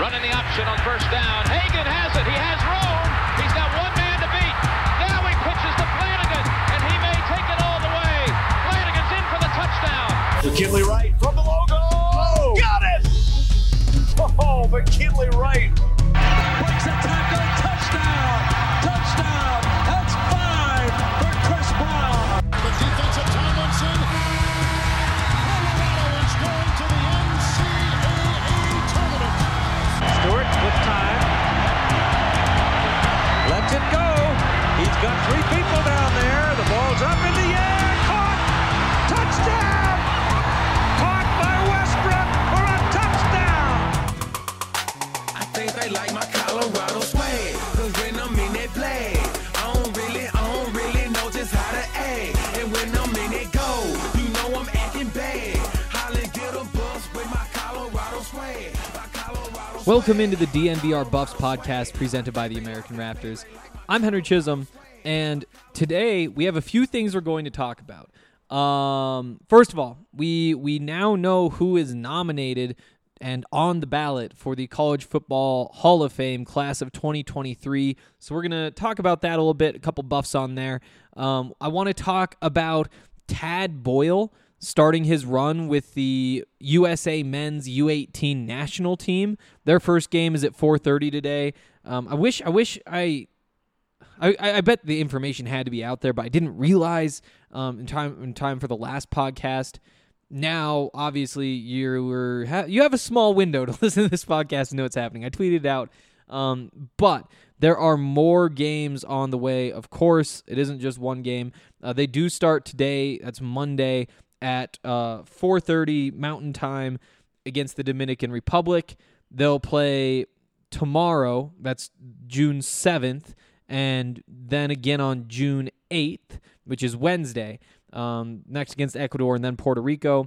Running the option on first down. Hagan has it. He has room. He's got one man to beat. Now he pitches to Flanagan, and he may take it all the way. Flanagan's in for the touchdown. McKinley Wright from the logo. Oh, got it! Oh, McKinley Wright. Breaks a tackle. Touchdown. Touchdown. That's 5 for Chris Brown. The defensive Tomlinson. Colorado is going to the NCAA tournament. Stewart with time. Lets it go. He's got 3 people down there. The ball's up in the air. Caught. Touchdown. Caught by Westbrook for a touchdown. I think they like my Colorado swag. Cause when I'm in that play, I don't really know just how to act. And when I'm in it go, you know I'm acting bad. Holly get a bus with my Colorado swag. Welcome into the DNVR Buffs podcast presented by the American Raptors. I'm Henry Chisholm, and today we have a few things we're going to talk about. First of all, we now know who is nominated and on the ballot for the College Football Hall of Fame class of 2023. So we're going to talk about that a little bit, a couple buffs on there. I want to talk about Tad Boyle starting his run with the USA Men's U18 national team. Their first game is at 4:30 today. I bet the information had to be out there, but I didn't realize in time for the last podcast. Now, obviously, you have a small window to listen to this podcast and know what's happening. I tweeted it out, but there are more games on the way. Of course, it isn't just one game. They do start today. That's Monday at 4:30 Mountain Time against the Dominican Republic. They'll play tomorrow. That's June 7th. And then again on June 8th, which is Wednesday, next against Ecuador and then Puerto Rico.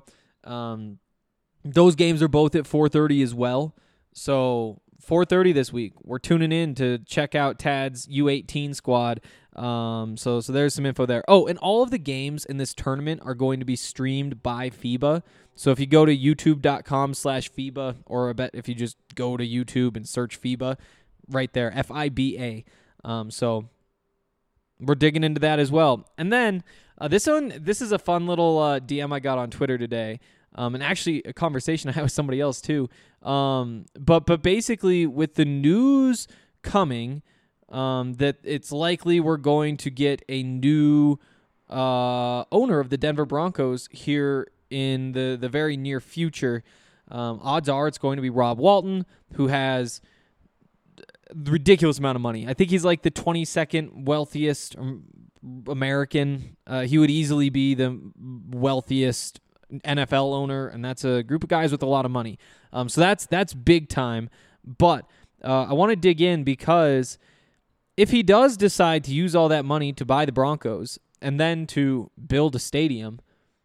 Those games are both at 4:30 as well. So 4:30 this week. We're tuning in to check out Tad's U18 squad. So there's some info there. Oh, and all of the games in this tournament are going to be streamed by FIBA. So if you go to youtube.com/FIBA, or I bet if you just go to YouTube and search FIBA, right there, FIBA. So we're digging into that as well. And then this is a fun little DM I got on Twitter today, and actually a conversation I had with somebody else too. But basically with the news coming that it's likely we're going to get a new owner of the Denver Broncos here in the very near future. Odds are it's going to be Rob Walton, who has ridiculous amount of money. I think he's like the 22nd wealthiest American. He would easily be the wealthiest NFL owner, and that's a group of guys with a lot of money. So that's big time. But I want to dig in because if he does decide to use all that money to buy the Broncos and then to build a stadium,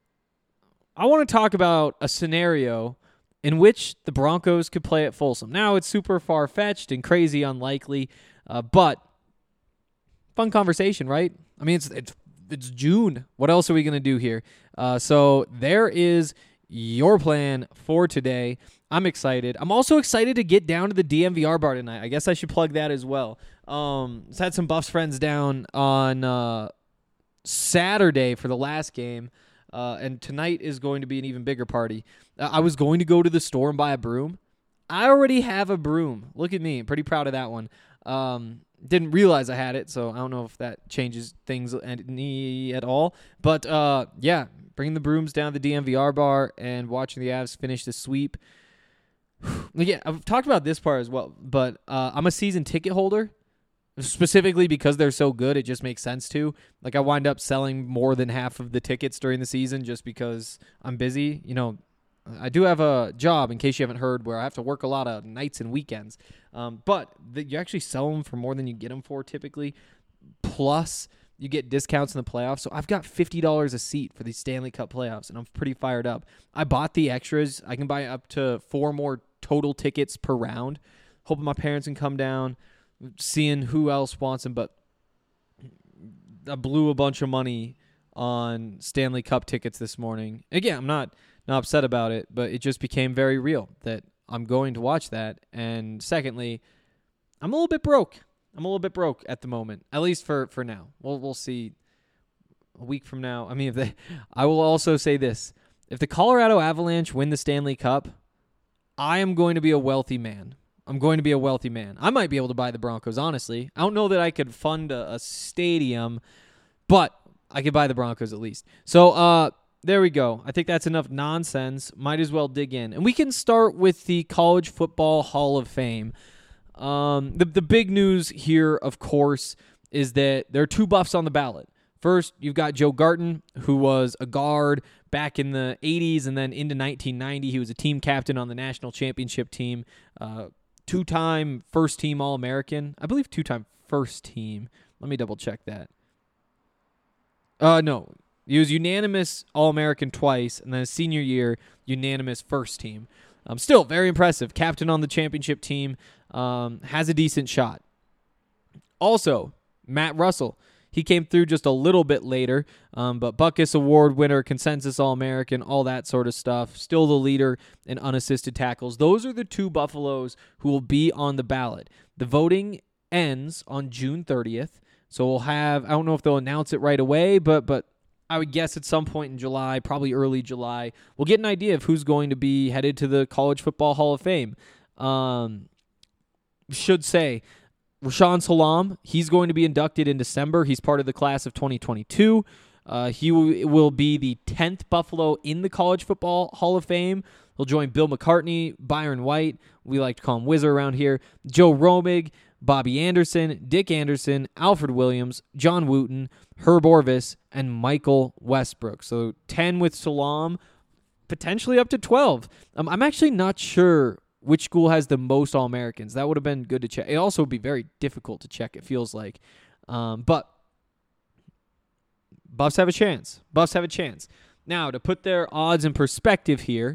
I want to talk about a scenario in which the Broncos could play at Folsom. Now, it's super far-fetched and crazy unlikely, but fun conversation, right? I mean, it's June. What else are we going to do here? So there is your plan for today. I'm excited. I'm also excited to get down to the DNVR bar tonight. I guess I should plug that as well. Had some Buffs friends down on Saturday for the last game. And tonight is going to be an even bigger party. I was going to go to the store and buy a broom. I already have a broom. Look at me. I'm pretty proud of that one. Didn't realize I had it, so I don't know if that changes things at all. But, yeah, bringing the brooms down to the DNVR bar and watching the Avs finish the sweep. Yeah, I've talked about this part as well, but I'm a season ticket holder. Specifically because they're so good, it just makes sense to. Like, I wind up selling more than half of the tickets during the season just because I'm busy. You know, I do have a job, in case you haven't heard, where I have to work a lot of nights and weekends. But you actually sell them for more than you get them for typically. Plus, you get discounts in the playoffs. So I've got $50 a seat for the Stanley Cup playoffs, and I'm pretty fired up. I bought the extras. I can buy up to 4 more total tickets per round. Hoping my parents can come down. Seeing who else wants them, but I blew a bunch of money on Stanley Cup tickets this morning. Again, I'm not upset about it, but it just became very real that I'm going to watch that. And secondly, I'm a little bit broke. I'm a little bit broke at the moment, at least for now. We'll see a week from now. I mean, I will also say this. If the Colorado Avalanche win the Stanley Cup, I am going to be a wealthy man. I'm going to be a wealthy man. I might be able to buy the Broncos, honestly. I don't know that I could fund a stadium, but I could buy the Broncos at least. So there we go. I think that's enough nonsense. Might as well dig in. And we can start with the College Football Hall of Fame. The big news here, of course, is that there are two buffs on the ballot. First, you've got Joe Garton, who was a guard back in the 80s and then into 1990. He was a team captain on the national championship team, two-time first-team All-American. I believe two-time first-team. Let me double-check that. No, he was unanimous All-American twice, and then his senior year, unanimous first-team. Still, very impressive. Captain on the championship team, has a decent shot. Also, Matt Russell. He came through just a little bit later, but Butkus Award winner, consensus All-American, all that sort of stuff. Still the leader in unassisted tackles. Those are the two Buffaloes who will be on the ballot. The voting ends on June 30th, so we'll have, I don't know if they'll announce it right away, but I would guess at some point in July, probably early July, we'll get an idea of who's going to be headed to the College Football Hall of Fame. Should say, Rashaan Salam, he's going to be inducted in December. He's part of the class of 2022. He will be the 10th Buffalo in the College Football Hall of Fame. He'll join Bill McCartney, Byron White, we like to call him Whizzer around here, Joe Romig, Bobby Anderson, Dick Anderson, Alfred Williams, John Wooten, Herb Orvis, and Michael Westbrook. So 10 with Salam, potentially up to 12. I'm actually not sure which school has the most All-Americans. That would have been good to check. It also would be very difficult to check, it feels like. But Buffs have a chance. Buffs have a chance. Now, to put their odds in perspective here,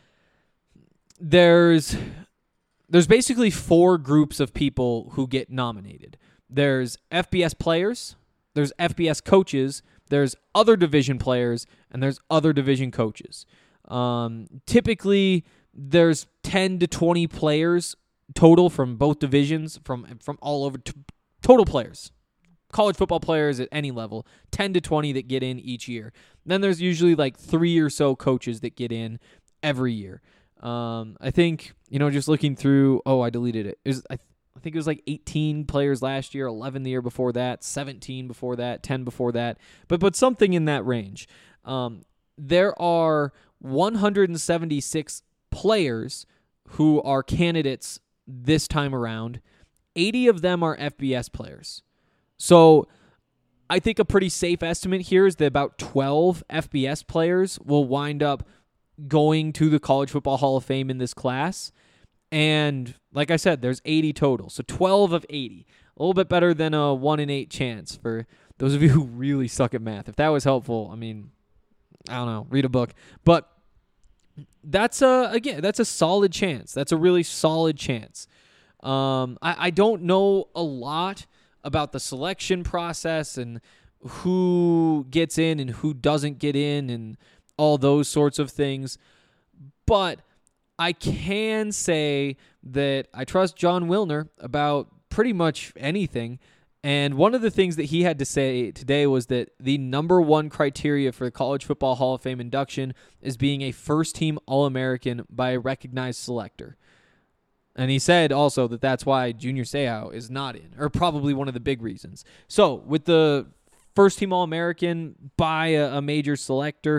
there's basically four groups of people who get nominated. There's FBS players, there's FBS coaches, there's other division players, and there's other division coaches. Typically, there's 10 to 20 players total from both divisions, from all over, total players. College football players at any level, 10 to 20 that get in each year. Then there's usually like 3 or so coaches that get in every year. I think, just looking through, I deleted it. I think it was like 18 players last year, 11 the year before that, 17 before that, 10 before that, but something in that range. There are 176 players who are candidates this time around. 80 of them are FBS players. So I think a pretty safe estimate here is that about 12 FBS players will wind up going to the College Football Hall of Fame in this class. And like I said, there's 80 total. So 12 of 80. A little bit better than a 1 in 8 chance for those of you who really suck at math. If that was helpful, I don't know, read a book. But that's a solid chance. That's a really solid chance. I don't know a lot about the selection process and who gets in and who doesn't get in and all those sorts of things. But I can say that I trust John Wilner about pretty much anything. And one of the things that he had to say today was that the number one criteria for the College Football Hall of Fame induction is being a first-team All-American by a recognized selector. And he said also that that's why Junior Seau is not in, or probably one of the big reasons. So with the first-team All-American by a major selector,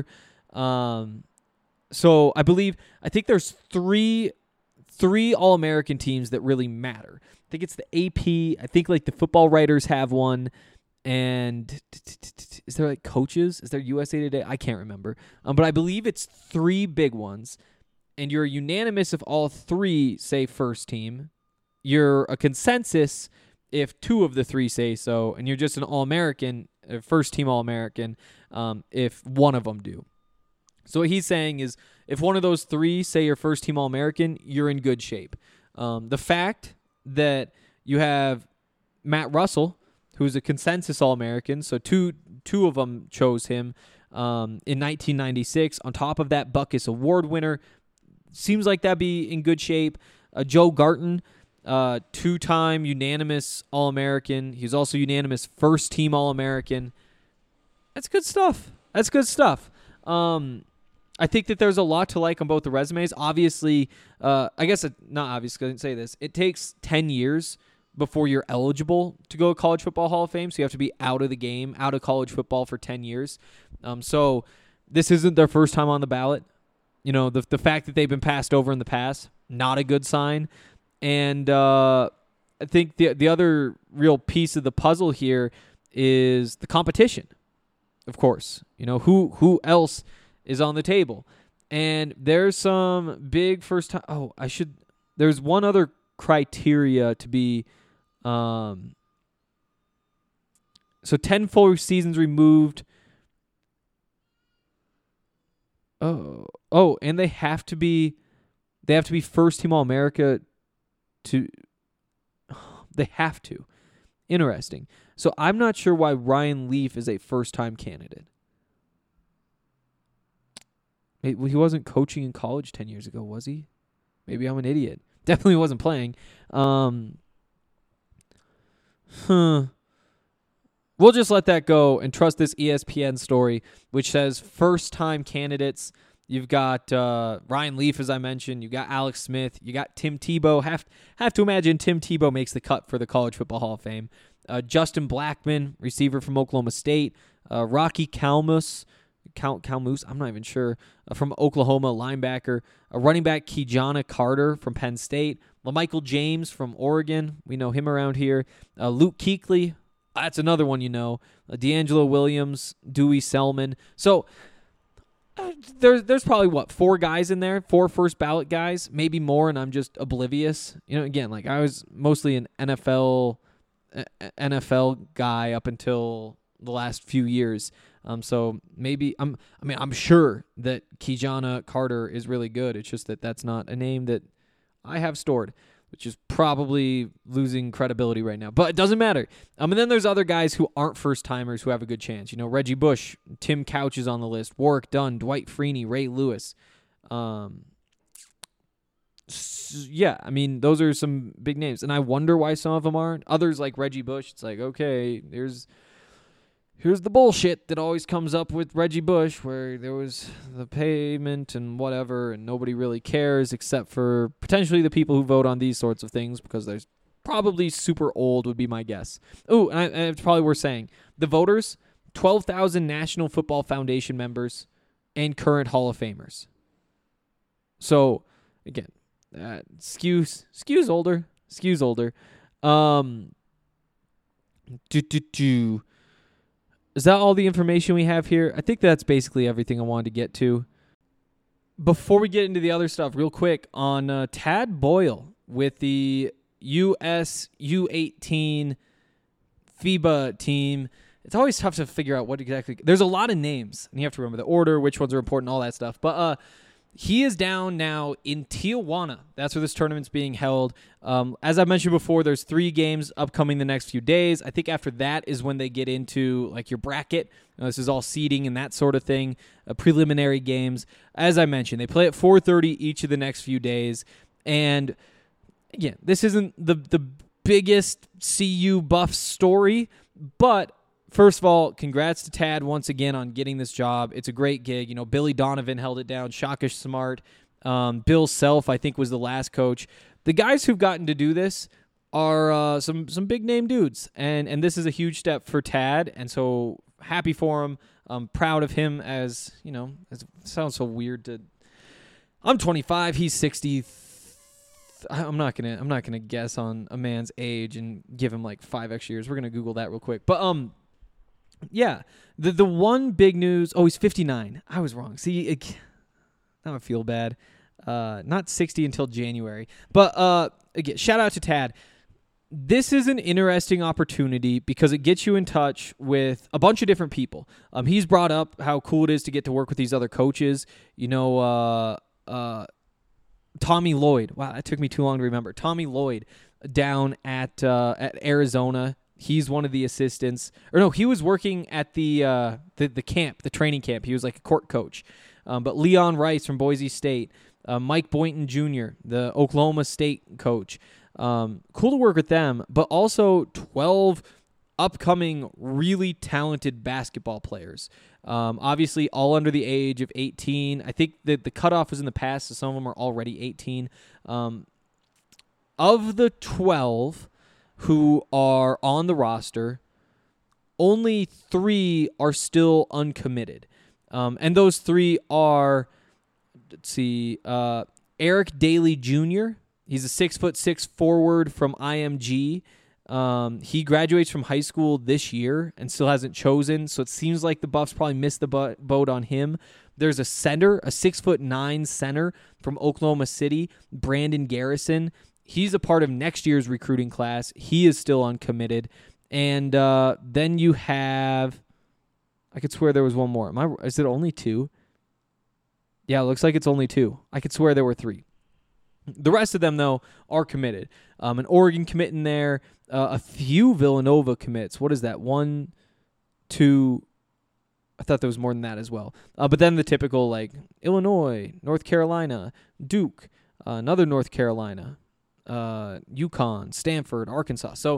so I think there's three All-American teams that really matter. I think it's the AP. I think like the Football Writers have one. And is there like coaches? Is there USA Today? I can't remember. But I believe it's 3 big ones. And you're unanimous if all 3 say first team. You're a consensus if 2 of the 3 say so. And you're just an All-American, first team All-American, if 1 of them do. So what he's saying is if one of those 3 say you're first team All-American, you're in good shape. The fact that you have Matt Russell, who's a consensus All-American, so two of them chose him in 1996. On top of that, Butkus Award winner, seems like that'd be in good shape. Joe Garton, 2-time unanimous All-American. He was also unanimous first-team All-American. That's good stuff. I think that there's a lot to like on both the resumes. Obviously, not obviously, I didn't say this. It takes 10 years before you're eligible to go to College Football Hall of Fame, so you have to be out of the game, out of college football for 10 years. So this isn't their first time on the ballot. You know, the fact that they've been passed over in the past, not a good sign. And I think the other real piece of the puzzle here is the competition, of course. You know, who else is on the table? And there's some big first time. There's one other criteria to be. So 10 full seasons removed. And they have to be first team All-America they have to. Interesting. So I'm not sure why Ryan Leaf is a first-time candidate. He wasn't coaching in college 10 years ago, was he? Maybe I'm an idiot. Definitely wasn't playing. We'll just let that go and trust this ESPN story, which says first-time candidates. You've got Ryan Leaf, as I mentioned. You got Alex Smith. You got Tim Tebow. Have to imagine Tim Tebow makes the cut for the College Football Hall of Fame. Justin Blackmon, receiver from Oklahoma State. Rocky Calmus, I'm not even sure, from Oklahoma, linebacker. A running back, Kijana Carter from Penn State. LaMichael James from Oregon. We know him around here. Luke Kuechly. That's another one you know. D'Angelo Williams, Dewey Selman. So there's probably, 4 guys in there? 4 first ballot guys? Maybe more, and I'm just oblivious. You know, again, like I was mostly an NFL guy up until the last few years. So maybe I'm sure that Kijana Carter is really good. It's just that that's not a name that I have stored, which is probably losing credibility right now. But it doesn't matter. And then there's other guys who aren't first-timers who have a good chance. You know, Reggie Bush, Tim Couch is on the list, Warwick Dunn, Dwight Freeney, Ray Lewis. Yeah, I mean, those are some big names. And I wonder why some of them aren't. Others like Reggie Bush, it's like, okay, here's the bullshit that always comes up with Reggie Bush, where there was the payment and whatever, and nobody really cares except for potentially the people who vote on these sorts of things, because there's probably super old would be my guess. Oh, and it's probably worth saying. The voters, 12,000 National Football Foundation members and current Hall of Famers. So, again, skews older. Is that all the information we have here? I think that's basically everything I wanted to get to. Before we get into the other stuff, real quick, on Tad Boyle with the US U18 FIBA team, it's always tough to figure out what exactly. There's a lot of names, and you have to remember the order, which ones are important, all that stuff. But he is down now in Tijuana. That's where this tournament's being held. As I mentioned before, there's 3 games upcoming the next few days. I think after that is when they get into like your bracket. This is all seeding and that sort of thing, preliminary games. As I mentioned, they play at 4:30 each of the next few days. And again, this isn't the biggest CU buff story, but first of all, congrats to Tad once again on getting this job. It's a great gig. You know, Billy Donovan held it down. Shaka Smart. Bill Self, I think, was the last coach. The guys who've gotten to do this are some big-name dudes. And this is a huge step for Tad, and so happy for him. I'm proud of him as, you know, it sounds so weird to... I'm 25. He's 60. I'm not gonna guess on a man's age and give him like 5 extra years. We're gonna Google that real quick. But yeah, the one big news. Oh, he's 59. I was wrong. See, now I feel bad. Not 60 until January. But again, shout out to Tad. This is an interesting opportunity because it gets you in touch with a bunch of different people. He's brought up how cool it is to get to work with these other coaches. You know, Tommy Lloyd. Wow, that took me too long to remember. Tommy Lloyd down at Arizona. He's one of the assistants. Or no, he was working at the camp, the training camp. He was like a court coach. But Leon Rice from Boise State. Mike Boynton Jr., the Oklahoma State coach. Cool to work with them, but also 12 upcoming really talented basketball players. Obviously, all under the age of 18. I think that the cutoff was in the past, so some of them are already 18. Of the 12 who are on the roster, only 3 are still uncommitted. And those 3 are, Eric Daly Jr., he's a 6'6" forward from IMG. He graduates from high school this year and still hasn't chosen, so it seems like the Buffs probably missed the boat on him. There's a center, a 6'9" center from Oklahoma City, Brandon Garrison. He's a part of next year's recruiting class. He is still uncommitted. And then you have, I could swear there was one more. Is it only 2? Yeah, it looks like it's only 2. I could swear there were 3. The rest of them, though, are committed. An Oregon commit in there, a few Villanova commits. What is that? 1, 2, I thought there was more than that as well. But then the typical, like, Illinois, North Carolina, Duke, another North Carolina, UConn, Stanford, Arkansas. So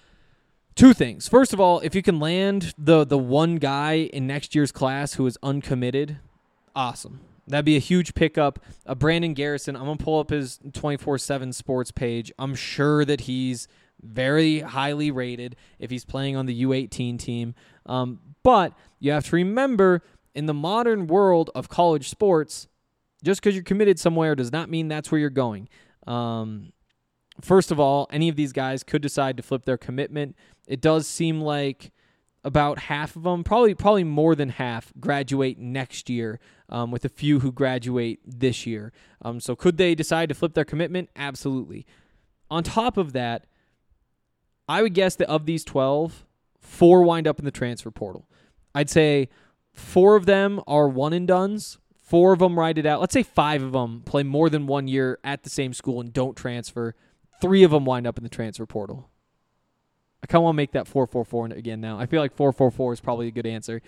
2 things. First of all, if you can land the one guy in next year's class who is uncommitted, awesome. That'd be a huge pickup. Brandon Garrison, I'm going to pull up his 24/7 sports page. I'm sure that he's very highly rated if he's playing on the U18 team. But you have to remember, in the modern world of college sports, just because you're committed somewhere does not mean that's where you're going. First of all, any of these guys could decide to flip their commitment. It does seem like about half of them, probably more than half, graduate next year, with a few who graduate this year. So could they decide to flip their commitment? Absolutely. On top of that, I would guess that of these 12, 4 wind up in the transfer portal. I'd say 4 of them are one-and-dones. 4 of them ride it out. Let's say 5 of them play more than 1 year at the same school and don't transfer. 3 of them wind up in the transfer portal. I kind of want to make that 4-4-4 again now. I feel like 4-4-4 is probably a good answer.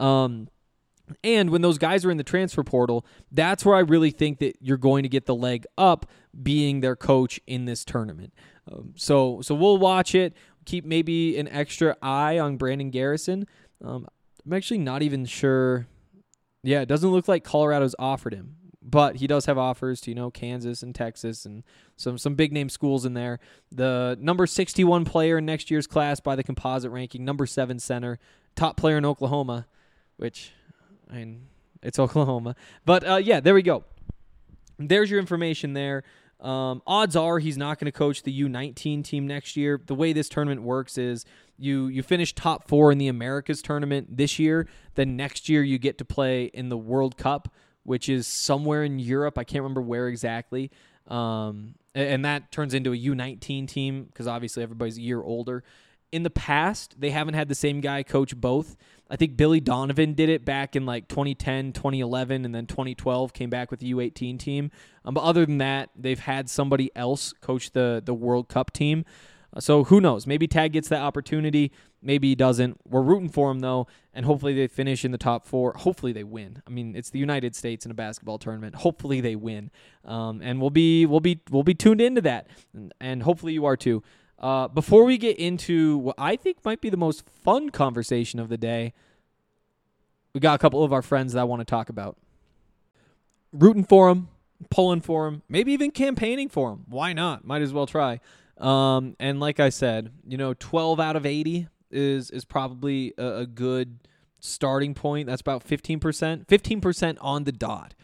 And when those guys are in the transfer portal, that's where I really think that you're going to get the leg up being their coach in this tournament. So we'll watch it. Keep maybe an extra eye on Brandon Garrison. I'm actually not even sure. Yeah, it doesn't look like Colorado's offered him, but he does have offers to, Kansas and Texas and some big-name schools in there. The number 61 player in next year's class by the composite ranking, number 7 center, top player in Oklahoma, which, it's Oklahoma. But, yeah, there we go. There's your information there. Odds are he's not going to coach the U19 team next year. The way this tournament works is you finish top 4 in the Americas tournament this year, then next year you get to play in the World Cup, which is somewhere in Europe. I can't remember where exactly. And that turns into a U19 team because obviously everybody's a year older. In the past, they haven't had the same guy coach both. I think Billy Donovan did it back in like 2010, 2011, and then 2012 came back with the U18 team. But other than that, they've had somebody else coach the World Cup team. So who knows? Maybe Tag gets that opportunity. Maybe he doesn't. We're rooting for him, though, and hopefully they finish in the top 4. Hopefully they win. I mean, it's the United States in a basketball tournament. Hopefully they win, and we'll be tuned into that, and hopefully you are too. Before we get into what I think might be the most fun conversation of the day, we got a couple of our friends that I want to talk about. Rooting for them, pulling for them, maybe even campaigning for them. Why not? Might as well try. And like I said, 12 out of 80 is probably a good starting point. That's about 15% on the dot.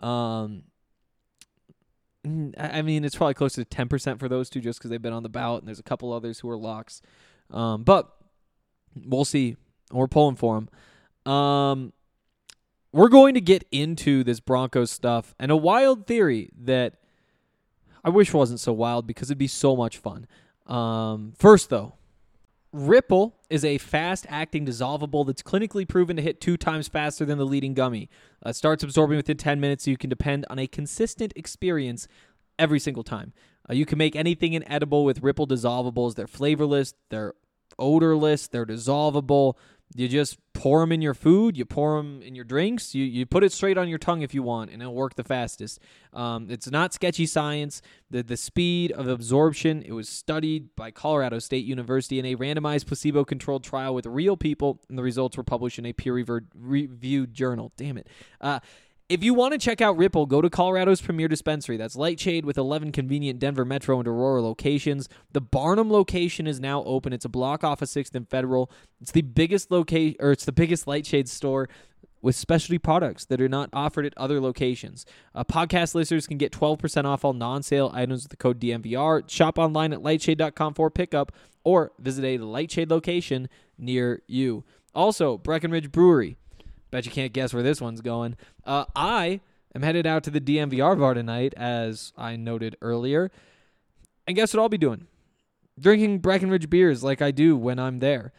I mean, it's probably close to 10% for those two just because they've been on the ballot, and there's a couple others who are locks. But we'll see. We're pulling for them. We're going to get into this Broncos stuff and a wild theory that I wish wasn't so wild because it'd be so much fun. First, though, Ripple is a fast-acting dissolvable that's clinically proven to hit 2 times faster than the leading gummy. It starts absorbing within 10 minutes, so you can depend on a consistent experience every single time. You can make anything inedible with Ripple dissolvables. They're flavorless, they're odorless, they're dissolvable. You just pour them in your food. You pour them in your drinks. You put it straight on your tongue if you want, and it'll work the fastest. It's not sketchy science. The speed of absorption, it was studied by Colorado State University in a randomized placebo-controlled trial with real people, and the results were published in a peer-reviewed journal. Damn it. If you want to check out Ripple, go to Colorado's premier dispensary. That's Lightshade with 11 convenient Denver Metro and Aurora locations. The Barnum location is now open. It's a block off of 6th and Federal. It's the biggest it's the biggest Lightshade store with specialty products that are not offered at other locations. Podcast listeners can get 12% off all non-sale items with the code DMVR. Shop online at lightshade.com for pickup or visit a Lightshade location near you. Also, Breckenridge Brewery. Bet you can't guess where this one's going. I am headed out to the DMVR bar tonight, as I noted earlier. And guess what I'll be doing? Drinking Breckenridge beers like I do when I'm there.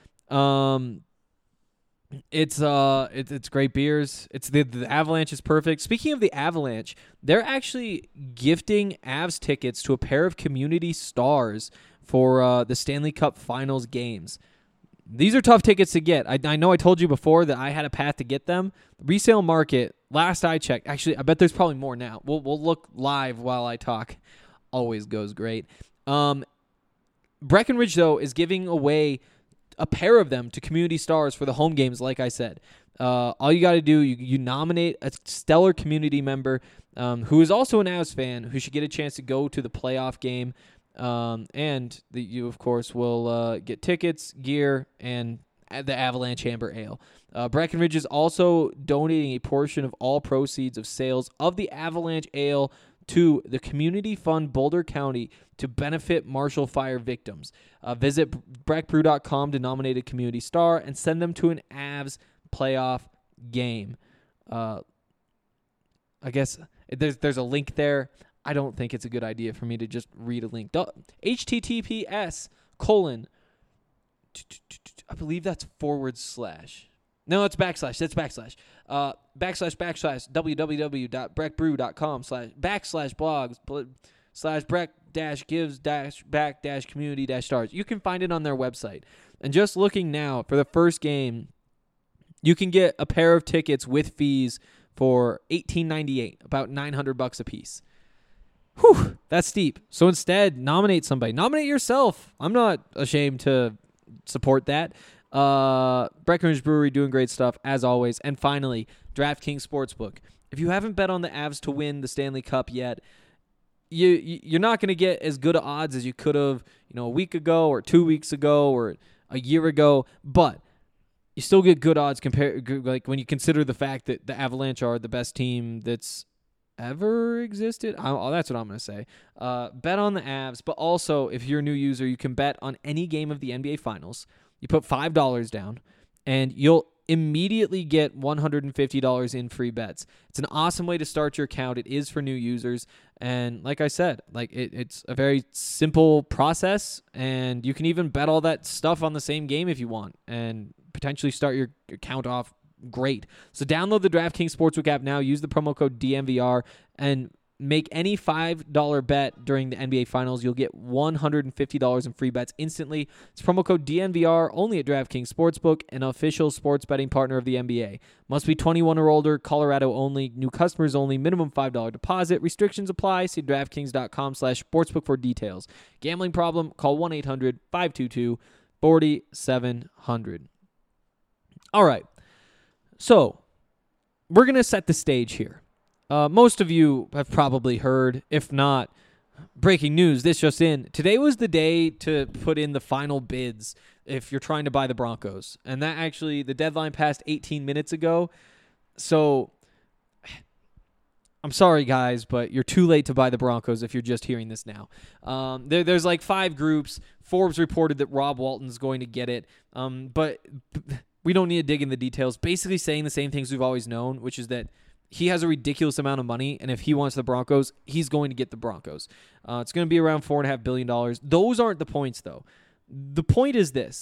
It's great beers. It's the Avalanche is perfect. Speaking of the Avalanche, they're actually gifting Avs tickets to a pair of community stars for the Stanley Cup Finals games. These are tough tickets to get. I know I told you before that I had a path to get them. Resale market, last I checked, actually, I bet there's probably more now. We'll look live while I talk. Always goes great. Breckenridge, though, is giving away a pair of them to community stars for the home games, like I said. All you got to do, you nominate a stellar community member who is also an Avs fan who should get a chance to go to the playoff game. And you, of course, will get tickets, gear, and the Avalanche Amber Ale. Breckenridge is also donating a portion of all proceeds of sales of the Avalanche Ale to the Community Fund Boulder County to benefit Marshall Fire victims. Visit breckbrew.com to nominate a community star and send them to an Avs playoff game. I guess there's a link there. I don't think it's a good idea for me to just read a link. HTTPS : I believe that's / No, it's backslash. That's backslash. www.breckbrew.com/backslash blogs/breck-gives-back-community-stars. You can find it on their website. And just looking now for the first game, you can get a pair of tickets with fees for $18.98, about $900 a piece. Whew, that's steep. So instead, nominate somebody. Nominate yourself. I'm not ashamed to support that. Breckenridge Brewery doing great stuff, as always. And finally, DraftKings Sportsbook. If you haven't bet on the Avs to win the Stanley Cup yet, you're not going to get as good odds as you could have, a week ago or 2 weeks ago or a year ago. But you still get good odds like when you consider the fact that the Avalanche are the best team that's ever existed. That's what I'm going to say. Bet on the Avs, but also if you're a new user, you can bet on any game of the NBA Finals. You put $5 down, and you'll immediately get $150 in free bets. It's an awesome way to start your account. It is for new users, and like I said, it's a very simple process, and you can even bet all that stuff on the same game if you want, and potentially start your account off great. So download the DraftKings Sportsbook app now. Use the promo code DMVR and make any $5 bet during the NBA Finals. You'll get $150 in free bets instantly. It's promo code DNVR only at DraftKings Sportsbook, an official sports betting partner of the NBA. Must be 21 or older, Colorado only, new customers only, minimum $5 deposit. Restrictions apply. See DraftKings.com/sportsbook for details. Gambling problem? Call 1-800-522-4700. All right. So, we're going to set the stage here. Most of you have probably heard, if not, breaking news, this just in. Today was the day to put in the final bids if you're trying to buy the Broncos. And that actually, the deadline passed 18 minutes ago. So, I'm sorry, guys, but you're too late to buy the Broncos if you're just hearing this now. There's like 5 groups. Forbes reported that Rob Walton's going to get it. But we don't need to dig in the details. Basically saying the same things we've always known, which is that he has a ridiculous amount of money, and if he wants the Broncos, he's going to get the Broncos. It's going to be around $4.5 billion. Those aren't the points, though. The point is this.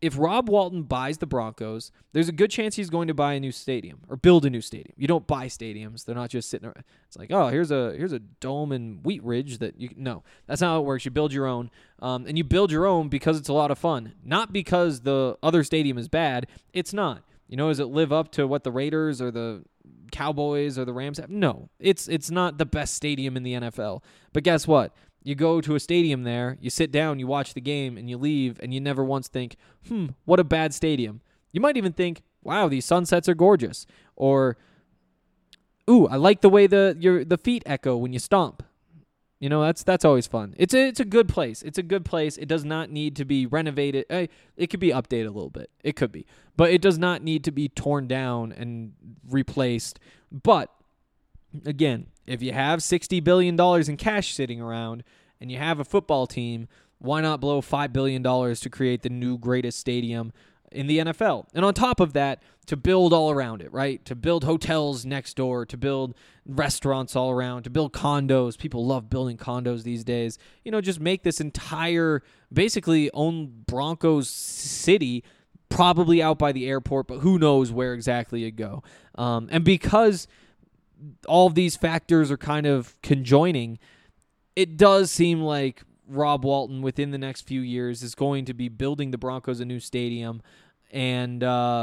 if Rob Walton buys the Broncos, there's a good chance he's going to buy a new stadium or build a new stadium. You don't buy stadiums. They're not just sitting around. It's like, oh, here's a dome in Wheat Ridge that you no. That's not how it works. You build your own. And you build your own because it's a lot of fun. Not because the other stadium is bad. It's not. Does it live up to what the Raiders or the Cowboys or the Rams have? No. It's not the best stadium in the NFL. But guess what? You go to a stadium there, you sit down, you watch the game, and you leave, and you never once think, what a bad stadium. You might even think, wow, these sunsets are gorgeous. Or, ooh, I like the way the feet echo when you stomp. That's always fun. It's a good place. It's a good place. It does not need to be renovated. It could be updated a little bit. It could be. But it does not need to be torn down and replaced. But, again, if you have $60 billion in cash sitting around and you have a football team, why not blow $5 billion to create the new greatest stadium in the NFL? And on top of that, to build all around it, right? To build hotels next door, to build restaurants all around, to build condos. People love building condos these days. Just make this entire, basically own Broncos city, probably out by the airport, but who knows where exactly it'd go. And because all of these factors are kind of conjoining, it does seem like Rob Walton within the next few years is going to be building the Broncos a new stadium, and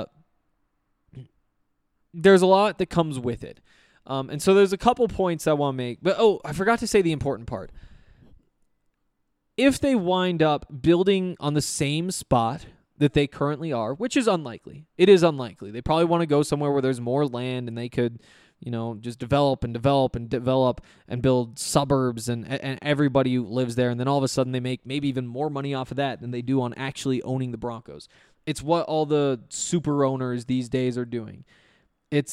there's a lot that comes with it. And so there's a couple points I want to make. But, I forgot to say the important part. If they wind up building on the same spot that they currently are, which is unlikely. It is unlikely. They probably want to go somewhere where there's more land and they could just develop and build suburbs and everybody who lives there. And then all of a sudden they make maybe even more money off of that than they do on actually owning the Broncos. It's what all the super owners these days are doing. It's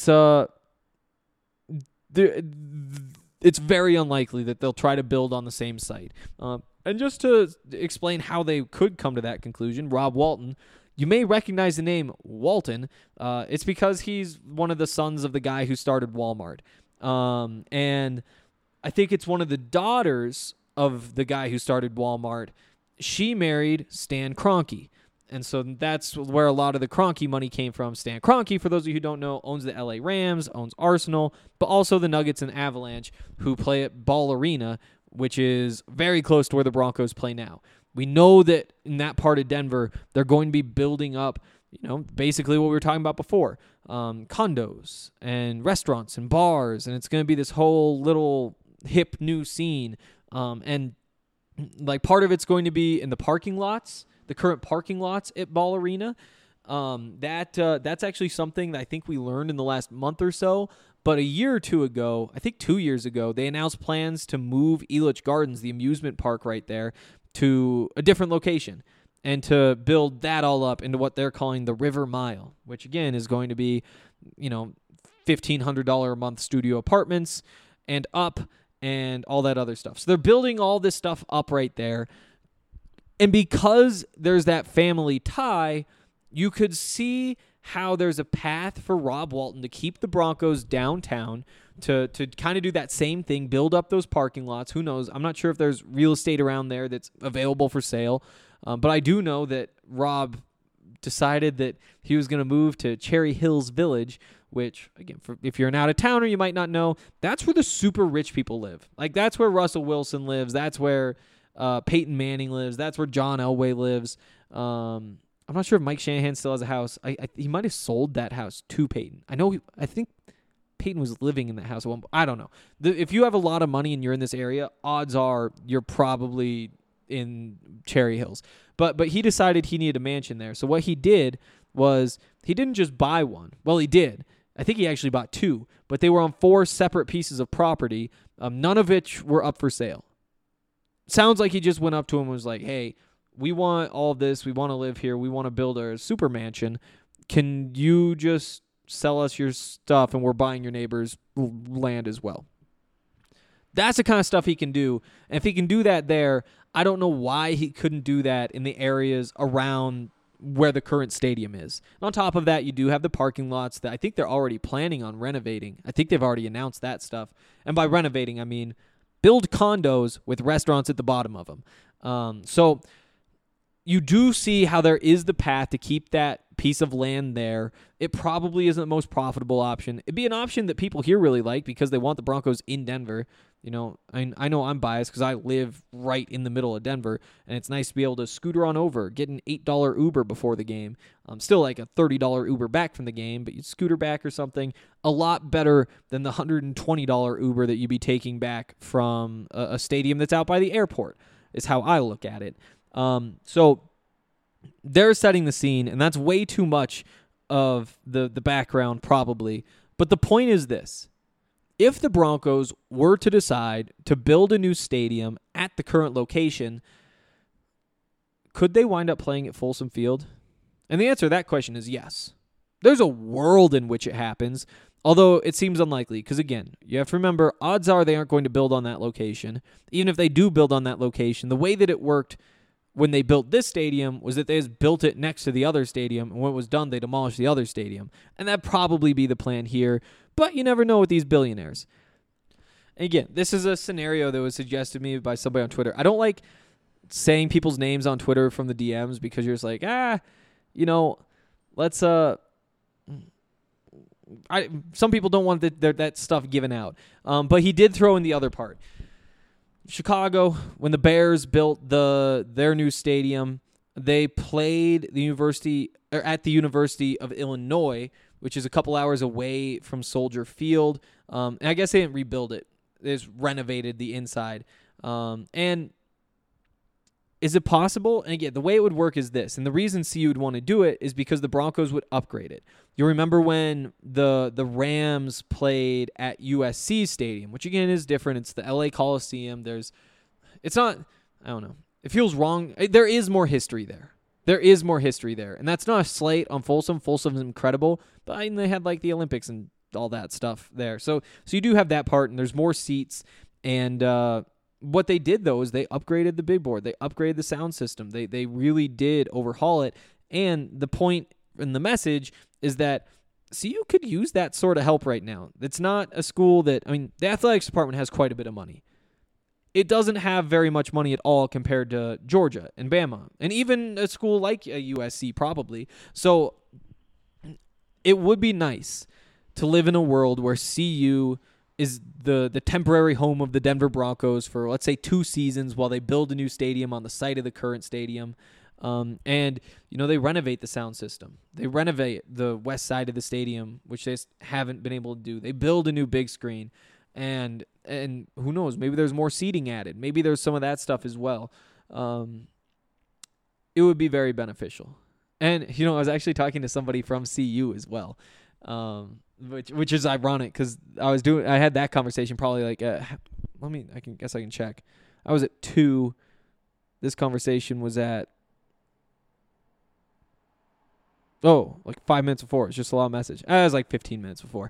very unlikely that they'll try to build on the same site. And just to explain how they could come to that conclusion, Rob Walton, you may recognize the name Walton. It's because he's one of the sons of the guy who started Walmart. And I think it's one of the daughters of the guy who started Walmart. She married Stan Kroenke. And so that's where a lot of the Kroenke money came from. Stan Kroenke, for those of you who don't know, owns the LA Rams, owns Arsenal, but also the Nuggets and Avalanche, who play at Ball Arena, which is very close to where the Broncos play now. We know that in that part of Denver, they're going to be building up, basically what we were talking about before, condos and restaurants and bars, and it's going to be this whole little hip new scene. And like part of it's going to be in the parking lots, the current parking lots at Ball Arena. That's actually something that I think we learned in the last month or so. But a year or two ago, I think 2 years ago, they announced plans to move Elitch Gardens, the amusement park right there, to a different location and to build that all up into what they're calling the River Mile, which again is going to be, $1,500 a month studio apartments and up and all that other stuff. So they're building all this stuff up right there. And because there's that family tie, you could see how there's a path for Rob Walton to keep the Broncos downtown, to kind of do that same thing, build up those parking lots. Who knows? I'm not sure if there's real estate around there that's available for sale. But I do know that Rob decided that he was going to move to Cherry Hills Village, which, again, if you're an out-of-towner, you might not know, that's where the super rich people live. Like, that's where Russell Wilson lives. That's where Peyton Manning lives. That's where John Elway lives. I'm not sure if Mike Shanahan still has a house. He might have sold that house to Peyton. I think Peyton was living in that house at one point. I don't know. If you have a lot of money and you're in this area, odds are you're probably in Cherry Hills. But he decided he needed a mansion there. So what he did was he didn't just buy one. Well, he did. I think he actually bought two, but they were on 4 separate pieces of property, none of which were up for sale. Sounds like he just went up to him and was like, hey, we want all this. We want to live here. We want to build a super mansion. Can you just sell us your stuff and we're buying your neighbor's land as well? That's the kind of stuff he can do. And if he can do that there, I don't know why he couldn't do that in the areas around where the current stadium is. And on top of that, you do have the parking lots that I think they're already planning on renovating. I think they've already announced that stuff. And by renovating, I mean build condos with restaurants at the bottom of them. So you do see how there is the path to keep that piece of land there. It probably isn't the most profitable option. It'd be an option that people here really like because they want the Broncos in Denver. You know, I know I'm biased because I live right in the middle of Denver, and it's nice to be able to scooter on over, get an $8 Uber before the game. Still like a $30 Uber back from the game, but you scooter back or something. A lot better than the $120 Uber that you'd be taking back from a stadium that's out by the airport, is how I look at it. So they're setting the scene, and that's way too much of the background probably. But the point is this. If the Broncos were to decide to build a new stadium at the current location, could they wind up playing at Folsom Field? And the answer to that question is yes. There's a world in which it happens, although it seems unlikely because, again, you have to remember, odds are they aren't going to build on that location. Even if they do build on that location, the way that it worked when they built this stadium was that they just built it next to the other stadium, and when it was done, they demolished the other stadium. And that'd probably be the plan here, but you never know with these billionaires. And again, this is a scenario that was suggested to me by somebody on Twitter. I don't like saying people's names on Twitter from the DMs because you're just like, let's some people don't want that stuff given out. But he did throw in the other part. Chicago, when the Bears built their new stadium, they played at the University of Illinois, which is a couple hours away from Soldier Field. And I guess they didn't rebuild it. They just renovated the inside. And is it possible? And again, the way it would work is this. And the reason CU would want to do it is because the Broncos would upgrade it. You remember when the Rams played at USC Stadium, which again is different. It's the LA Coliseum. It's not, I don't know. It feels wrong. There is more history there. And that's not a slight on Folsom. Folsom's incredible. But they had like the Olympics and all that stuff there. So you do have that part, and there's more seats. And what they did, though, is they upgraded the big board. They upgraded the sound system. They really did overhaul it. And the point and the message is that CU could use that sort of help right now. It's not a school that, the athletics department has quite a bit of money. It doesn't have very much money at all compared to Georgia and Bama, and even a school like a USC probably. So it would be nice to live in a world where CU is the temporary home of the Denver Broncos for, let's say, 2 seasons while they build a new stadium on the site of the current stadium. And they renovate the sound system. They renovate the west side of the stadium, which they haven't been able to do. They build a new big screen, and who knows, maybe there's more seating added. Maybe there's some of that stuff as well. It would be very beneficial. And, I was actually talking to somebody from CU as well, which is ironic because I had that conversation probably like, I can check. I was at 2. This conversation was at, like 5 minutes before. It's just a long message. It was like 15 minutes before.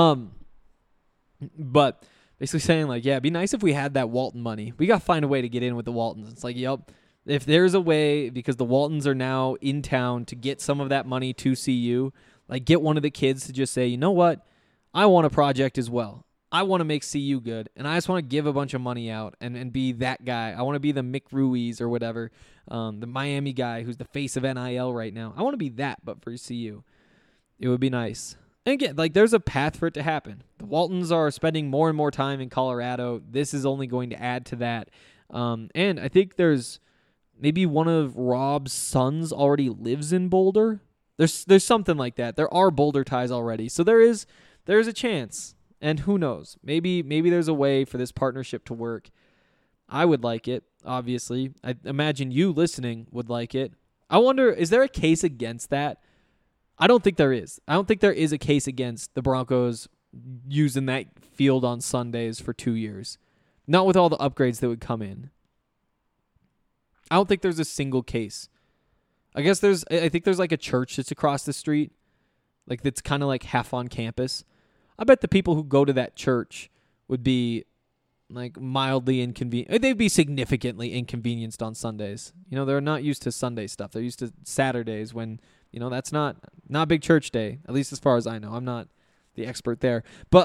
But basically saying like, yeah, it'd be nice if we had that Walton money. We got to find a way to get in with the Waltons. It's like, yep, if there's a way, because the Waltons are now in town, to get some of that money to CU, like get one of the kids to just say, you know what, I want a project as well. I want to make CU good, and I just want to give a bunch of money out and be that guy. I want to be the Mick Ruiz or whatever, the Miami guy who's the face of NIL right now. I want to be that, but for CU. It would be nice. And again, like there's a path for it to happen. The Waltons are spending more and more time in Colorado. This is only going to add to that. And I think there's maybe one of Rob's sons already lives in Boulder. There's something like that. There are Boulder ties already. So there's a chance. And who knows? Maybe there's a way for this partnership to work. I would like it, obviously. I imagine you listening would like it. I wonder, is there a case against that? I don't think there is. I don't think there is a case against the Broncos using that field on Sundays for 2 years. Not with all the upgrades that would come in. I don't think there's a single case. I think there's like a church that's across the street. Like that's kind of like half on campus. I bet the people who go to that church would be like mildly inconvenient. They'd be significantly inconvenienced on Sundays. They're not used to Sunday stuff. They're used to Saturdays when, that's not big church day, at least as far as I know. I'm not the expert there. But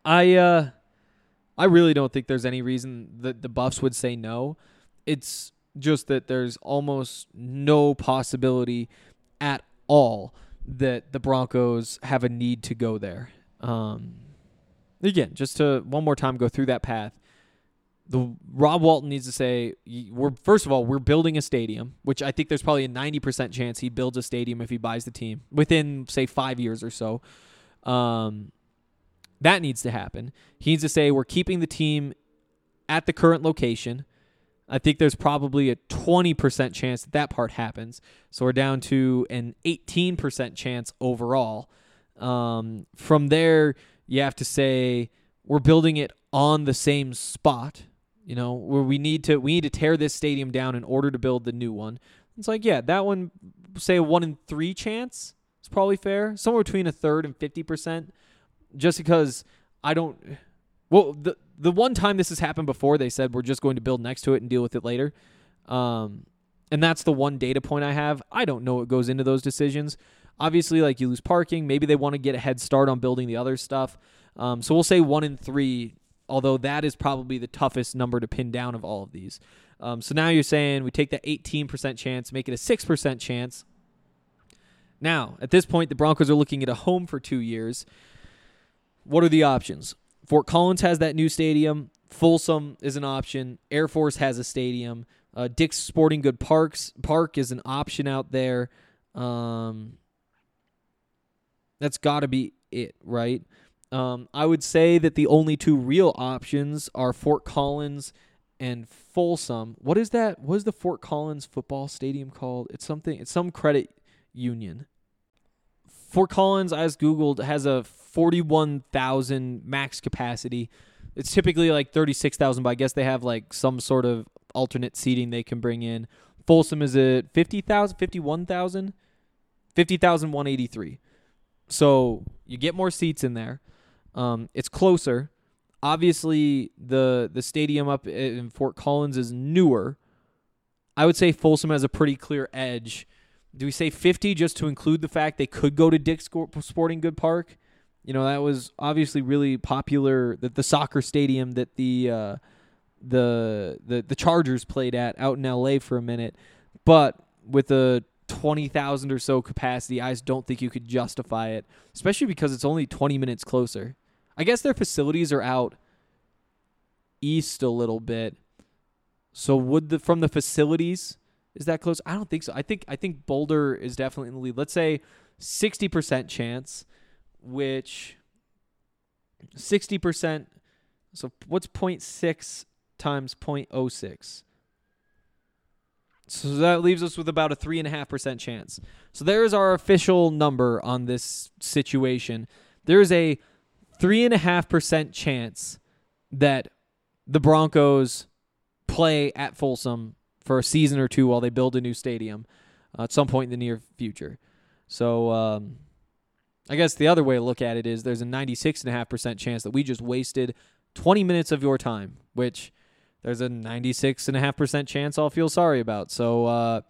I really don't think there's any reason that the Buffs would say no. It's just that there's almost no possibility at all that the Broncos have a need to go there. Again, just to one more time go through that path. Rob Walton needs to say, first of all, we're building a stadium, which I think there's probably a 90% chance he builds a stadium if he buys the team within, say, 5 years or so. That needs to happen. He needs to say we're keeping the team at the current location. I think there's probably a 20% chance that part happens. So we're down to an 18% chance overall. From there, you have to say we're building it on the same spot, where we need to tear this stadium down in order to build the new one. It's like, yeah, that one, say a 1 in 3 chance is probably fair. Somewhere between a third and 50%. Just because the one time this has happened before, they said we're just going to build next to it and deal with it later. And that's the one data point I have. I don't know what goes into those decisions. Obviously, like, you lose parking. Maybe they want to get a head start on building the other stuff. So we'll say 1 in 3, although that is probably the toughest number to pin down of all of these. So now you're saying we take that 18% chance, make it a 6% chance. Now, at this point, the Broncos are looking at a home for 2 years. What are the options? Fort Collins has that new stadium. Folsom is an option. Air Force has a stadium. Dick's Sporting Goods Park is an option out there. That's got to be it, right? I would say that the only 2 real options are Fort Collins and Folsom. What is that? What is the Fort Collins football stadium called? It's some credit union. Fort Collins, I just Googled, has a 41,000 max capacity. It's typically like 36,000, but I guess they have like some sort of alternate seating they can bring in. Folsom is at 50,000, 51,000, 50,183. So you get more seats in there. It's closer. Obviously, the stadium up in Fort Collins is newer. I would say Folsom has a pretty clear edge. Do we say 50 just to include the fact they could go to Dick's Sporting Goods Park? That was obviously really popular. The soccer stadium that the Chargers played at out in LA for a minute, but with a 20,000 or so capacity, I just don't think you could justify it, especially because it's only 20 minutes closer. I guess their facilities are out east a little bit. So from the facilities, is that close? I don't think so. I think Boulder is definitely in the lead. Let's say 60% chance, which 60%. So what's 0.6 times 0.06? So that leaves us with about a 3.5% chance. So there's our official number on this situation. There is a 3.5% chance that the Broncos play at Folsom for a season or 2 while they build a new stadium at some point in the near future. So I guess the other way to look at it is there's a 96.5% chance that we just wasted 20 minutes of your time, which there's a 96.5% chance I'll feel sorry about. So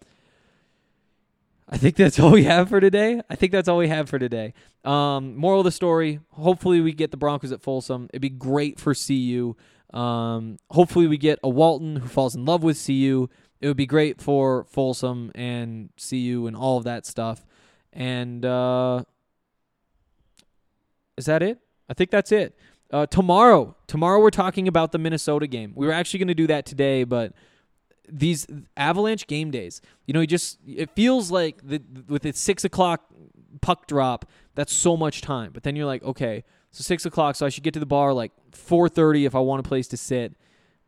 I think that's all we have for today. Moral of the story, hopefully we get the Broncos at Folsom. It'd be great for CU. Hopefully we get a Walton who falls in love with CU. It would be great for Folsom and CU and all of that stuff. And is that it? I think that's it. Tomorrow we're talking about the Minnesota game. We were actually going to do that today, but these Avalanche game days, it feels like with its 6 o'clock puck drop, that's so much time. But then you're like, okay, so 6 o'clock, so I should get to the bar like 4:30 if I want a place to sit.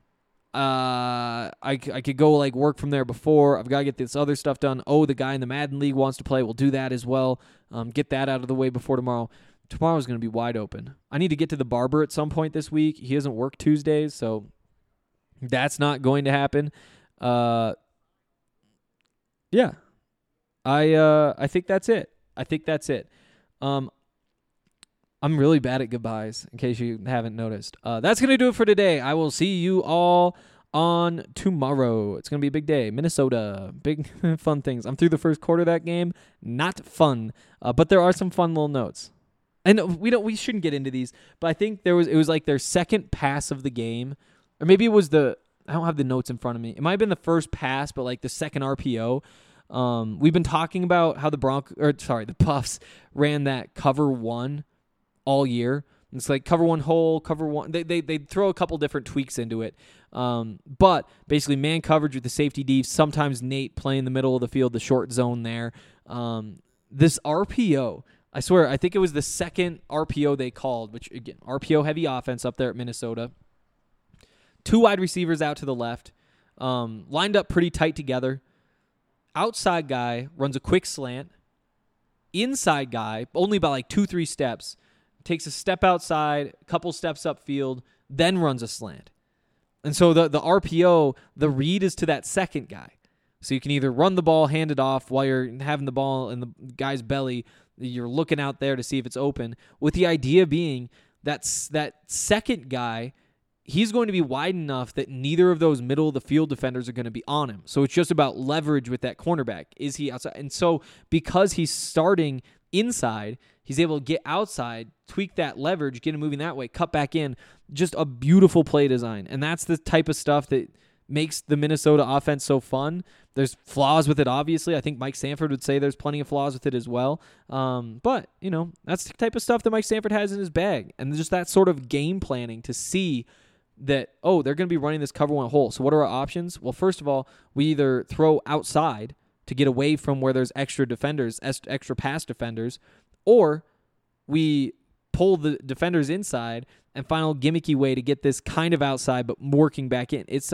I could go like work from there before. I've got to get this other stuff done. Oh, the guy in the Madden League wants to play. We'll do that as well. Get that out of the way before tomorrow. Tomorrow's going to be wide open. I need to get to the barber at some point this week. He doesn't work Tuesdays, so that's not going to happen. Yeah. I think that's it. I'm really bad at goodbyes, in case you haven't noticed. That's going to do it for today. I will see you all on tomorrow. It's going to be a big day. Minnesota. Big fun things. I'm through the first quarter of that game. Not fun. But there are some fun little notes. And we shouldn't get into these, but I think it was like their second pass of the game, or maybe it was I don't have the notes in front of me. It might have been the first pass, but like the second RPO. We've been talking about how the Buffs ran that cover one all year. It's like cover one hole, cover one. They throw a couple different tweaks into it. But basically man coverage with the safety deep. Sometimes Nate playing the middle of the field, the short zone there. This RPO, I swear, I think it was the second RPO they called, which again, RPO heavy offense up there at Minnesota. 2 wide receivers out to the left, lined up pretty tight together. Outside guy runs a quick slant. Inside guy, only by like 2-3 steps, takes a step outside, a couple steps upfield, then runs a slant. And so the RPO, the read is to that second guy. So you can either run the ball, hand it off while you're having the ball in the guy's belly. You're looking out there to see if it's open, with the idea being that second guy, he's going to be wide enough that neither of those middle of the field defenders are going to be on him. So it's just about leverage with that cornerback. Is he outside? And so because he's starting inside, he's able to get outside, tweak that leverage, get him moving that way, cut back in. Just a beautiful play design. And that's the type of stuff that makes the Minnesota offense so fun. There's flaws with it, obviously. I think Mike Sanford would say there's plenty of flaws with it as well. But, that's the type of stuff that Mike Sanford has in his bag. And just that sort of game planning to see that, they're going to be running this cover one hole. So what are our options? Well, first of all, we either throw outside to get away from where there's extra defenders, extra pass defenders, or we pull the defenders inside and find a gimmicky way to get this kind of outside but working back in. It's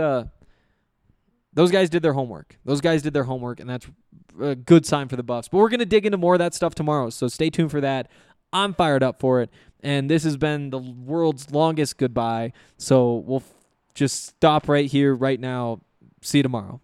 those guys did their homework. And that's a good sign for the Buffs. But we're going to dig into more of that stuff tomorrow, so stay tuned for that. I'm fired up for it, and this has been the world's longest goodbye, so we'll just stop right here, right now. See you tomorrow.